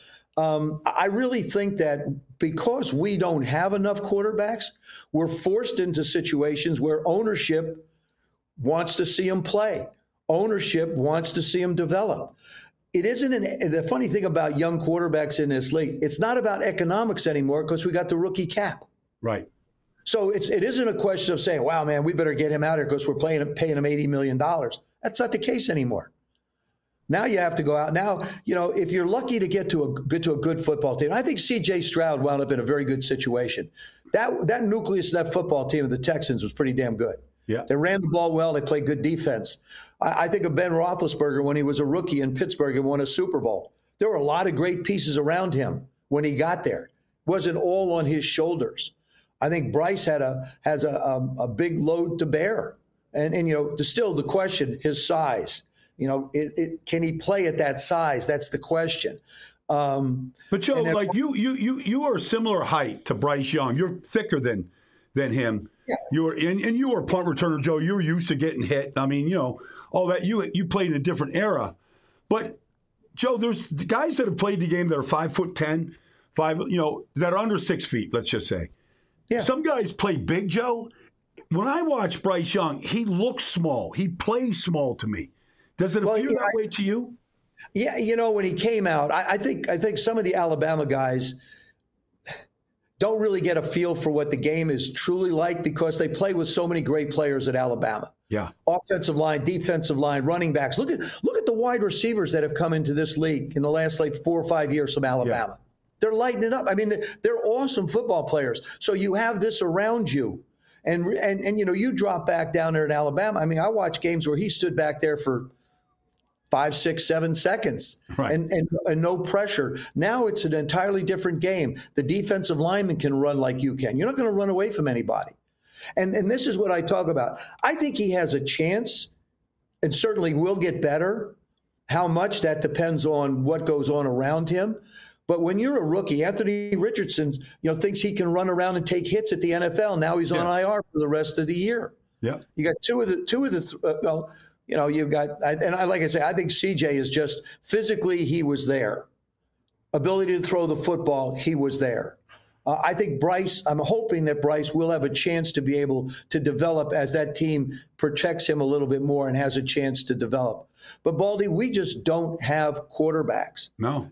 I really think that because we don't have enough quarterbacks, we're forced into situations where ownership wants to see them play. Ownership wants to see them develop. It isn't the funny thing about young quarterbacks in this league, it's not about economics anymore because we got the rookie cap. Right. So it isn't a question of saying, wow, man, we better get him out here because we're paying him $80 million. That's not the case anymore. Now you have to go out. Now, if you're lucky to get to a good football team, I think C.J. Stroud wound up in a very good situation. That nucleus of that football team of the Texans was pretty damn good. Yeah. They ran the ball well. They played good defense. I think of Ben Roethlisberger when he was a rookie in Pittsburgh and won a Super Bowl. There were a lot of great pieces around him when he got there. It wasn't all on his shoulders. I think Bryce has a big load to bear. And still the question, his size. Can he play at that size? That's the question. But Joe, you are a similar height to Bryce Young. You're thicker than him. Yeah. You were a punt returner, Joe. You were used to getting hit. I mean, all that. You played in a different era. But Joe, there's guys that have played the game that are 5'10", that are under 6 feet. Let's just say. Yeah. Some guys play big, Joe. When I watch Bryce Young, he looks small. He plays small to me. Does it appear that way to you? Yeah, when he came out, I think some of the Alabama guys don't really get a feel for what the game is truly like because they play with so many great players at Alabama. Yeah. Offensive line, defensive line, running backs. Look at the wide receivers that have come into this league in the last 4 or 5 years from Alabama. Yeah. They're lighting it up. I mean, they're awesome football players. So you have this around you. And you drop back down there in Alabama. I mean, I watched games where he stood back there for 5, 6, 7 seconds, right, and no pressure. Now it's an entirely different game. The defensive lineman can run like you can. You're not going to run away from anybody. And this is what I talk about. I think he has a chance and certainly will get better. How much, that depends on what goes on around him. But when you're a rookie, Anthony Richardson, thinks he can run around and take hits at the NFL. Now he's on IR for the rest of the year. Yeah, you got you've got, and like I say, I think CJ is just physically, he was there. Ability to throw the football, he was there. I think Bryce, I'm hoping that Bryce will have a chance to be able to develop as that team protects him a little bit more and has a chance to develop. But Baldy, we just don't have quarterbacks. No.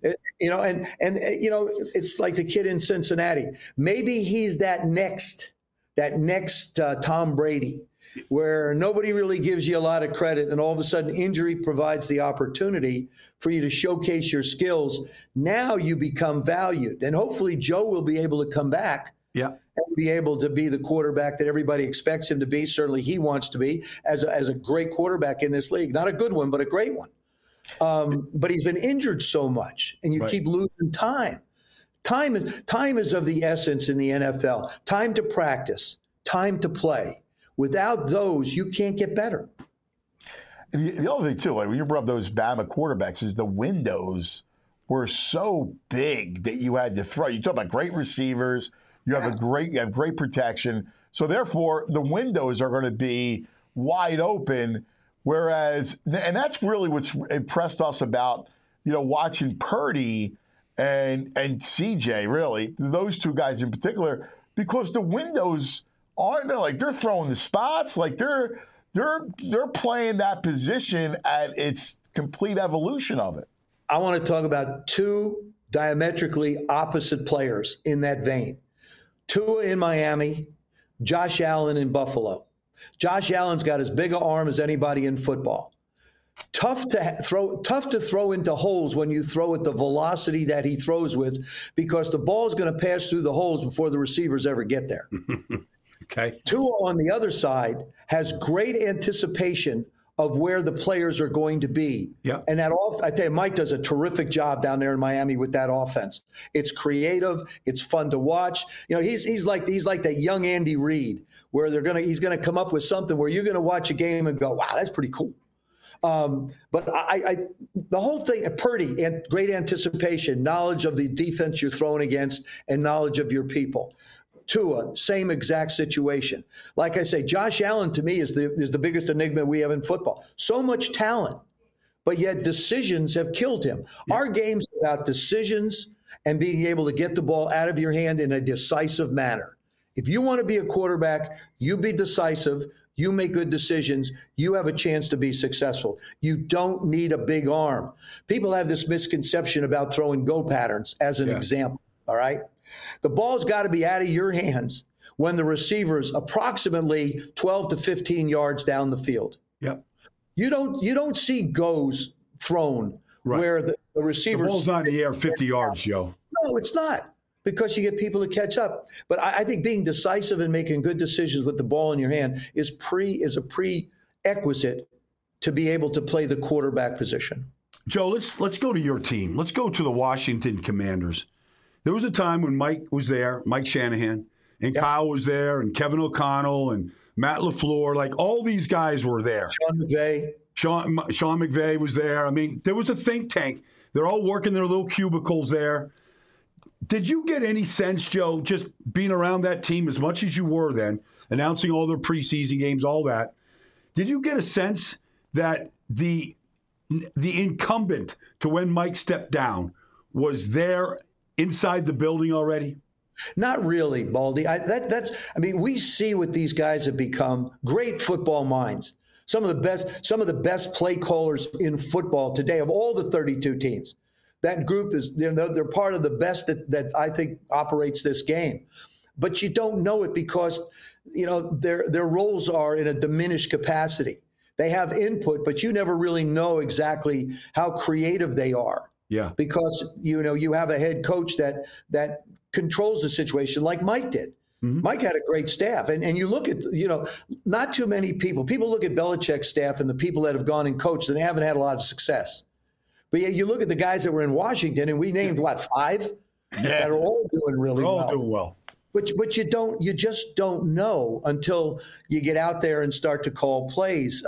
It's like the kid in Cincinnati. Maybe he's that next Tom Brady, where nobody really gives you a lot of credit, and all of a sudden injury provides the opportunity for you to showcase your skills. Now you become valued, and hopefully Joe will be able to come back. Yeah. And be able to be the quarterback that everybody expects him to be. Certainly he wants to be as a great quarterback in this league. Not a good one, but a great one. But he's been injured so much, and you keep losing time. Time is of the essence in the NFL. Time to practice, time to play. Without those, you can't get better. The other thing, too, like when you brought up those Bama quarterbacks, is the windows were so big that you had to throw. You talk about great receivers. You have great protection. So therefore, the windows are going to be wide open. Whereas, and that's really what's impressed us about, watching Purdy and CJ, really, those two guys in particular, because the windows aren't there. Like, they're throwing the spots. Like, they're playing that position at its complete evolution of it. I want to talk about two diametrically opposite players in that vein. Tua in Miami, Josh Allen in Buffalo. Josh Allen's got as big an arm as anybody in football. Tough to throw into holes when you throw at the velocity that he throws with, because the ball is going to pass through the holes before the receivers ever get there. Okay. Tua on the other side has great anticipation of where the players are going to be. Yeah. And I tell you, Mike does a terrific job down there in Miami with that offense. It's creative. It's fun to watch. He's like that young Andy Reid, where he's gonna come up with something where you're gonna watch a game and go, wow, that's pretty cool. But the whole thing, Purdy, and great anticipation, knowledge of the defense you're throwing against, and knowledge of your people. Tua, same exact situation. Like I say, Josh Allen to me is the biggest enigma we have in football. So much talent, but yet decisions have killed him. Yeah. Our game's about decisions and being able to get the ball out of your hand in a decisive manner. If you want to be a quarterback, you be decisive. You make good decisions. You have a chance to be successful. You don't need a big arm. People have this misconception about throwing go patterns as an example. All right. The ball's got to be out of your hands when the receiver's approximately 12 to 15 yards down the field. Yep. You don't see goes thrown where the receivers. The ball's not in the air 50 yards, Joe. No, it's not, because you get people to catch up. But I think being decisive and making good decisions with the ball in your hand is a prerequisite to be able to play the quarterback position. Joe, let's go to your team. Let's go to the Washington Commanders. There was a time when Mike was there, Mike Shanahan, and Kyle was there, and Kevin O'Connell, and Matt LaFleur. Like, all these guys were there. Sean McVay. Sean McVay was there. I mean, there was a think tank. They're all working their little cubicles there. Did you get any sense, Joe, just being around that team as much as you were then, announcing all their preseason games, all that, did you get a sense that the incumbent to when Mike stepped down was there inside the building already? Not really, Baldy. We see what these guys have become. Great football minds. Some of the best play callers in football today of all the 32 teams. That group they're part of the best that I think operates this game. But you don't know it because their roles are in a diminished capacity. They have input, but you never really know exactly how creative they are. Yeah. Because you have a head coach that controls the situation like Mike did. Mm-hmm. Mike had a great staff. And you look at, not too many people. People look at Belichick's staff and the people that have gone and coached, and they haven't had a lot of success. But yet you look at the guys that were in Washington, and we named, 5? That are all doing really well. All doing well. But you just don't know until you get out there and start to call plays.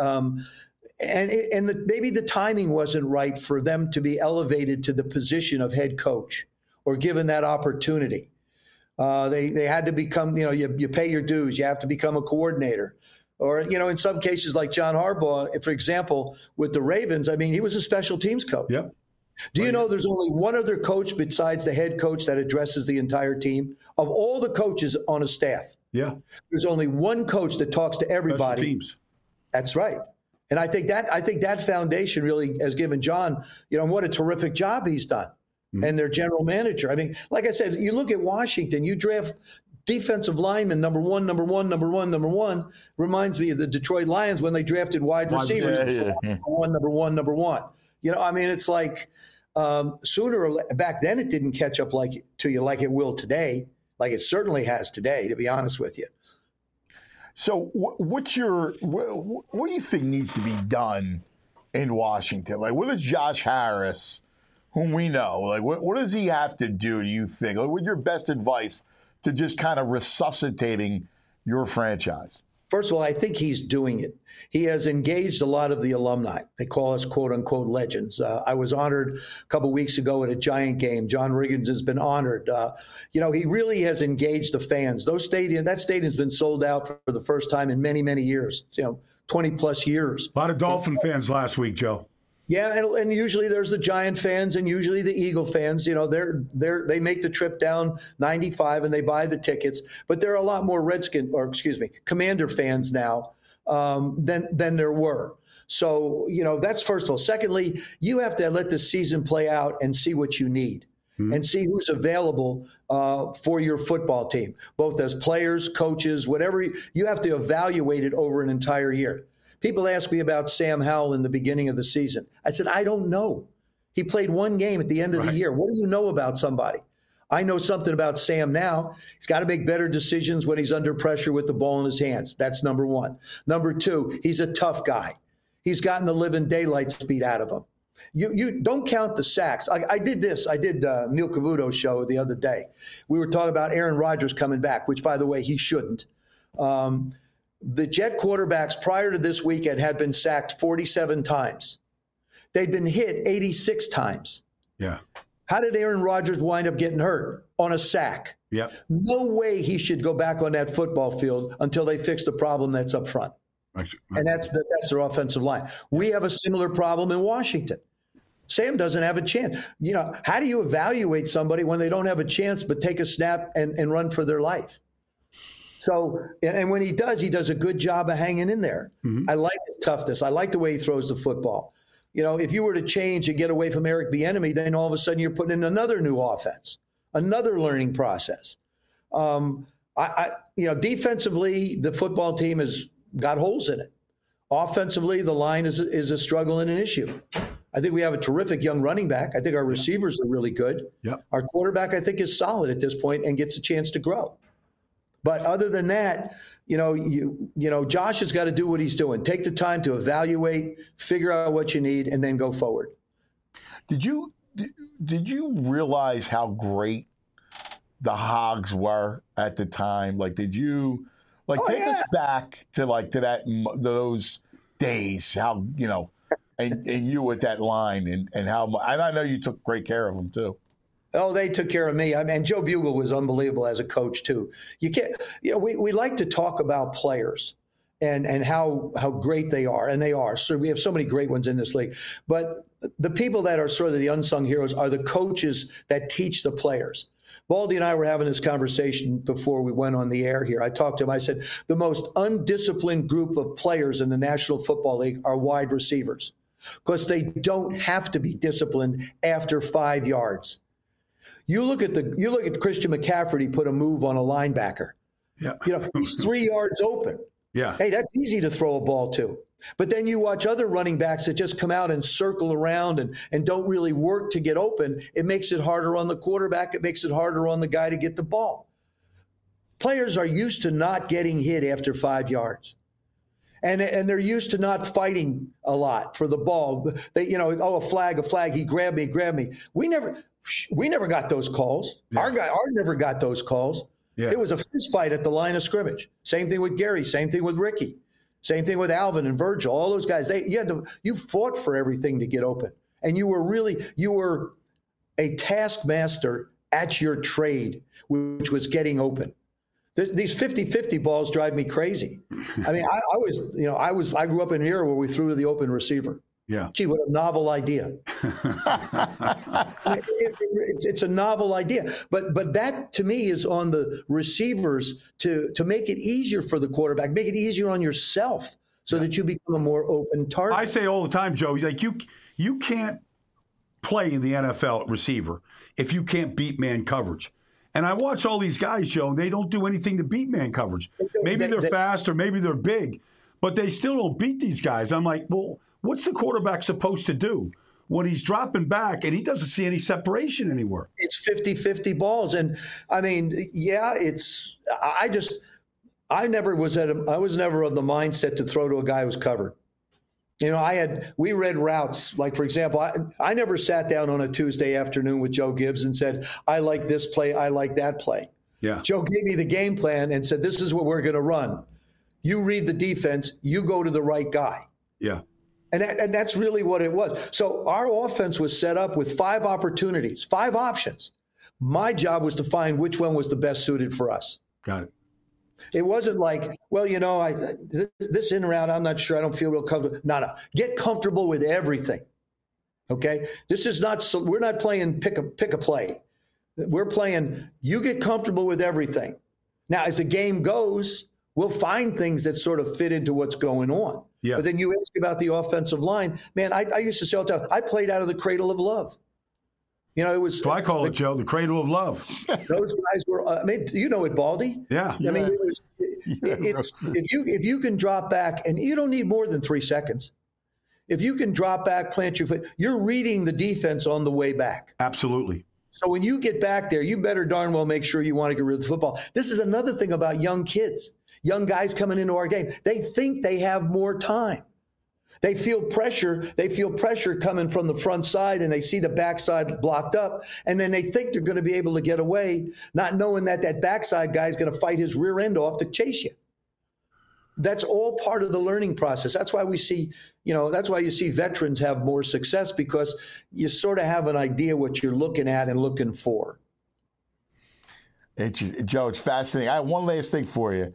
Maybe the timing wasn't right for them to be elevated to the position of head coach or given that opportunity. They had to become, you pay your dues. You have to become a coordinator. Or, in some cases like John Harbaugh, for example, with the Ravens, he was a special teams coach. Yep. Do you know there's only one other coach besides the head coach that addresses the entire team? Of all the coaches on a staff, there's only one coach that talks to everybody. Special teams. That's right. And I think that foundation really has given John, what a terrific job he's done. Mm-hmm. And their general manager. Like I said, you look at Washington, you draft defensive lineman number one, reminds me of the Detroit Lions when they drafted wide receivers. Number one. It's like sooner or back then it didn't catch up to you like it will today, like it certainly has today, to be honest with you. So what do you think needs to be done in Washington? Like, what does Josh Harris, whom we know, like, what does he have to do, do you think? Like, what's your best advice to just kind of resuscitating your franchise? First of all, I think he's doing it. He has engaged a lot of the alumni. They call us quote unquote legends. I was honored a couple weeks ago at a Giant game. John Riggins has been honored. He really has engaged the fans. That stadium's been sold out for the first time in many, many years, 20 plus years. A lot of Dolphin fans last week, Joe. Yeah, and usually there's the Giant fans and usually the Eagle fans. They make the trip down 95 and they buy the tickets. But there are a lot more Commander fans now than there were. So that's first of all. Secondly, you have to let the season play out and see what you need. And see who's available for your football team, both as players, coaches, whatever. You have to evaluate it over an entire year. People ask me about Sam Howell in the beginning of the season. I said, I don't know. He played one game at the end of the year. What do you know about somebody? I know something about Sam now. He's got to make better decisions when he's under pressure with the ball in his hands. That's number one. Number two, he's a tough guy. He's gotten the living daylights beat out of him. You don't count the sacks. I did this. I did Neil Cavuto's show the other day. We were talking about Aaron Rodgers coming back, which, by the way, he shouldn't. The Jet quarterbacks prior to this weekend had been sacked 47 times. They'd been hit 86 times. Yeah. How did Aaron Rodgers wind up getting hurt? On a sack. Yeah. No way he should go back on that football field until they fix the problem that's up front. Right. And that's their offensive line. We have a similar problem in Washington. Sam doesn't have a chance. How do you evaluate somebody when they don't have a chance but take a snap and run for their life? So, and when he does a good job of hanging in there. Mm-hmm. I like his toughness. I like the way he throws the football. If you were to change and get away from Eric Bieniemy, then all of a sudden you're putting in another new offense, another learning process. Defensively, the football team has got holes in it. Offensively, the line is a struggle and an issue. I think we have a terrific young running back. I think our receivers are really good. Yep. Our quarterback, I think, is solid at this point and gets a chance to grow. But other than that, Josh has got to do what he's doing. Take the time to evaluate, figure out what you need, and then go forward. Did you realize how great the Hogs were at the time? Like, did you take us back to those days? How and you with that line and how? And I know you took great care of them too. Oh, they took care of me. And Joe Bugle was unbelievable as a coach too. You can't. We like to talk about players and how great they are, and they are. So we have so many great ones in this league. But the people that are sort of the unsung heroes are the coaches that teach the players. Baldy and I were having this conversation before we went on the air here. I talked to him. I said, the most undisciplined group of players in the National Football League are wide receivers because they don't have to be disciplined after 5 yards. You look at Christian McCaffrey. He put a move on a linebacker. Yeah. He's 3 yards open. Yeah. Hey, that's easy to throw a ball to. But then you watch other running backs that just come out and circle around and don't really work to get open. It makes it harder on the quarterback. It makes it harder on the guy to get the ball. Players are used to not getting hit after 5 yards. And they're used to not fighting a lot for the ball. They, a flag, he grabbed me. We never got those calls. Yeah. Our never got those calls. Yeah. It was a fist fight at the line of scrimmage. Same thing with Gary. Same thing with Ricky. Same thing with Alvin and Virgil. All those guys. You fought for everything to get open, and you were a taskmaster at your trade, which was getting open. These 50-50 balls drive me crazy. I mean, I grew up in an era where we threw to the open receiver. Yeah. Gee, what a novel idea. It's a novel idea. But that, to me, is on the receivers to make it easier for the quarterback, make it easier on yourself so that you become a more open target. I say all the time, Joe, like you can't play in the NFL at receiver if you can't beat man coverage. And I watch all these guys, Joe, and they don't do anything to beat man coverage. Maybe they're fast or maybe they're big, but they still don't beat these guys. I'm like, well, what's the quarterback supposed to do when he's dropping back and he doesn't see any separation anywhere? It's 50-50 balls. And I mean, I was never of the mindset to throw to a guy who's covered. You know, we read routes. Like, for example, I never sat down on a Tuesday afternoon with Joe Gibbs and said, I like this play, I like that play. Yeah. Joe gave me the game plan and said, this is what we're going to run. You read the defense, you go to the right guy. Yeah. And that's really what it was. So our offense was set up with 5 opportunities, 5 options. My job was to find which one was the best suited for us. Got it. It wasn't like, well, you know, this in and out, I'm not sure. I don't feel real comfortable. No. Get comfortable with everything. Okay? This is not, we're not playing pick a play. We're playing, you get comfortable with everything. Now, as the game goes, we'll find things that sort of fit into what's going on. Yeah. But then you ask about the offensive line. Man, I used to say all the time, I played out of the cradle of love. You know, it was. So I call it, Joe, the cradle of love. Those guys were. I mean, you know it, Baldy. Yeah. I mean, if you can drop back, and you don't need more than 3 seconds. If you can drop back, plant your foot, you're reading the defense on the way back. Absolutely. So when you get back there, you better darn well make sure you want to get rid of the football. This is another thing about young kids, young guys coming into our game. They think they have more time. They feel pressure. They feel pressure coming from the front side, and they see the backside blocked up, and then they think they're going to be able to get away, not knowing that backside guy is going to fight his rear end off to chase you. That's all part of the learning process. That's why we see, that's why you see veterans have more success, because you sort of have an idea what you're looking at and looking for. Joe, it's fascinating. I have one last thing for you.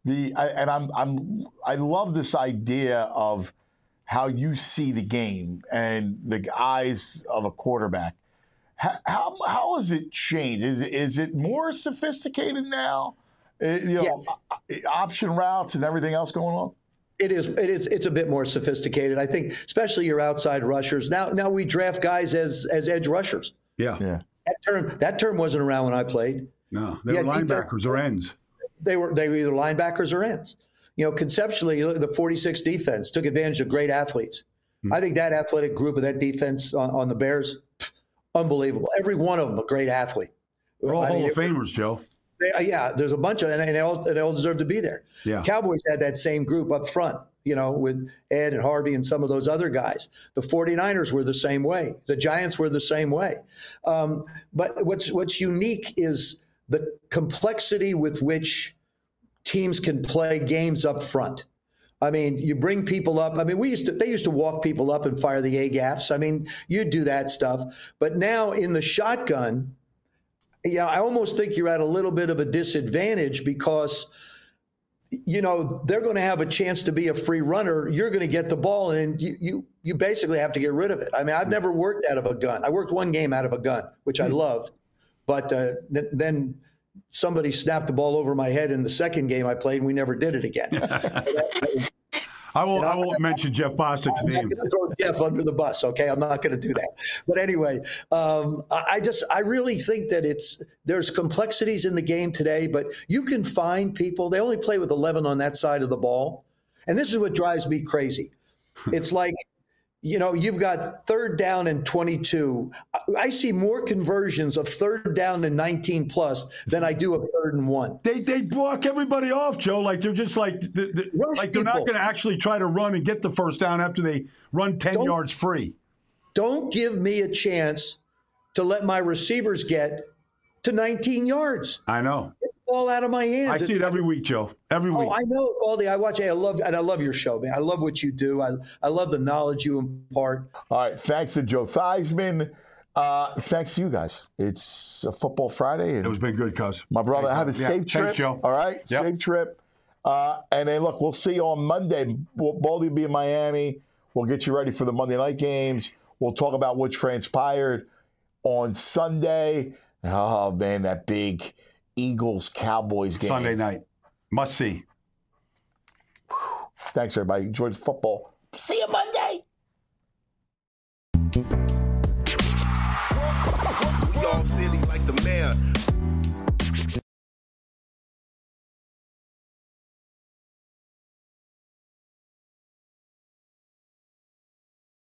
I love this idea of how you see the game and the eyes of a quarterback. How has it changed? Is it more sophisticated now? Option routes and everything else going on? It is. It's a bit more sophisticated. I think, especially your outside rushers. Now we draft guys as edge rushers. Yeah. That term wasn't around when I played. No, they were linebackers or ends. They were either linebackers or ends. Conceptually, you look at the 46 defense, took advantage of great athletes. I think that athletic group of that defense on the Bears, unbelievable. Every one of them a great athlete. They're all Hall of Famers, Joe. There's a bunch of, and they all deserve to be there. Yeah. Cowboys had that same group up front, with Ed and Harvey and some of those other guys. The 49ers were the same way. The Giants were the same way. But what's unique is the complexity with which teams can play games up front. I mean, you bring people up. I mean, they used to walk people up and fire the A-gaps. I mean, you do that stuff. But now in the shotgun, I almost think you're at a little bit of a disadvantage because, they're going to have a chance to be a free runner. You're going to get the ball, and you basically have to get rid of it. I mean, I've never worked out of a gun. I worked one game out of a gun, which I loved. But then somebody snapped the ball over my head in the second game I played, and we never did it again. I won't mention Jeff Bostic's name. I'm going to throw Jeff under the bus, okay? I'm not going to do that. But anyway, I really think that there's complexities in the game today, but you can find people. They only play with 11 on that side of the ball. And this is what drives me crazy. It's like, you've got 3rd down and 22. I see more conversions of 3rd down and 19 plus than I do of 3rd and 1. They block everybody off, Joe. Like they're just like they're not going to actually try to run and get the first down after they run 10 yards free. Don't give me a chance to let my receivers get to 19 yards. I know. Ball out of my hands. I see it every week, Joe. Every week. Oh, I know, Baldy. I watch it. I love your show, man. I love what you do. I love the knowledge you impart. All right. Thanks to Joe Theismann. Thanks to you guys. It's a Football Friday. And it was been good, cuz. My brother, have a safe trip. Thanks, Joe. All right. Yep. Safe trip. And then, look, we'll see you on Monday. Baldy will be in Miami. We'll get you ready for the Monday night games. We'll talk about what transpired on Sunday. Oh, man, that big Eagles-Cowboys game. Sunday night. Must see. Thanks, everybody. Enjoy the football. See you Monday. We all silly like the mayor.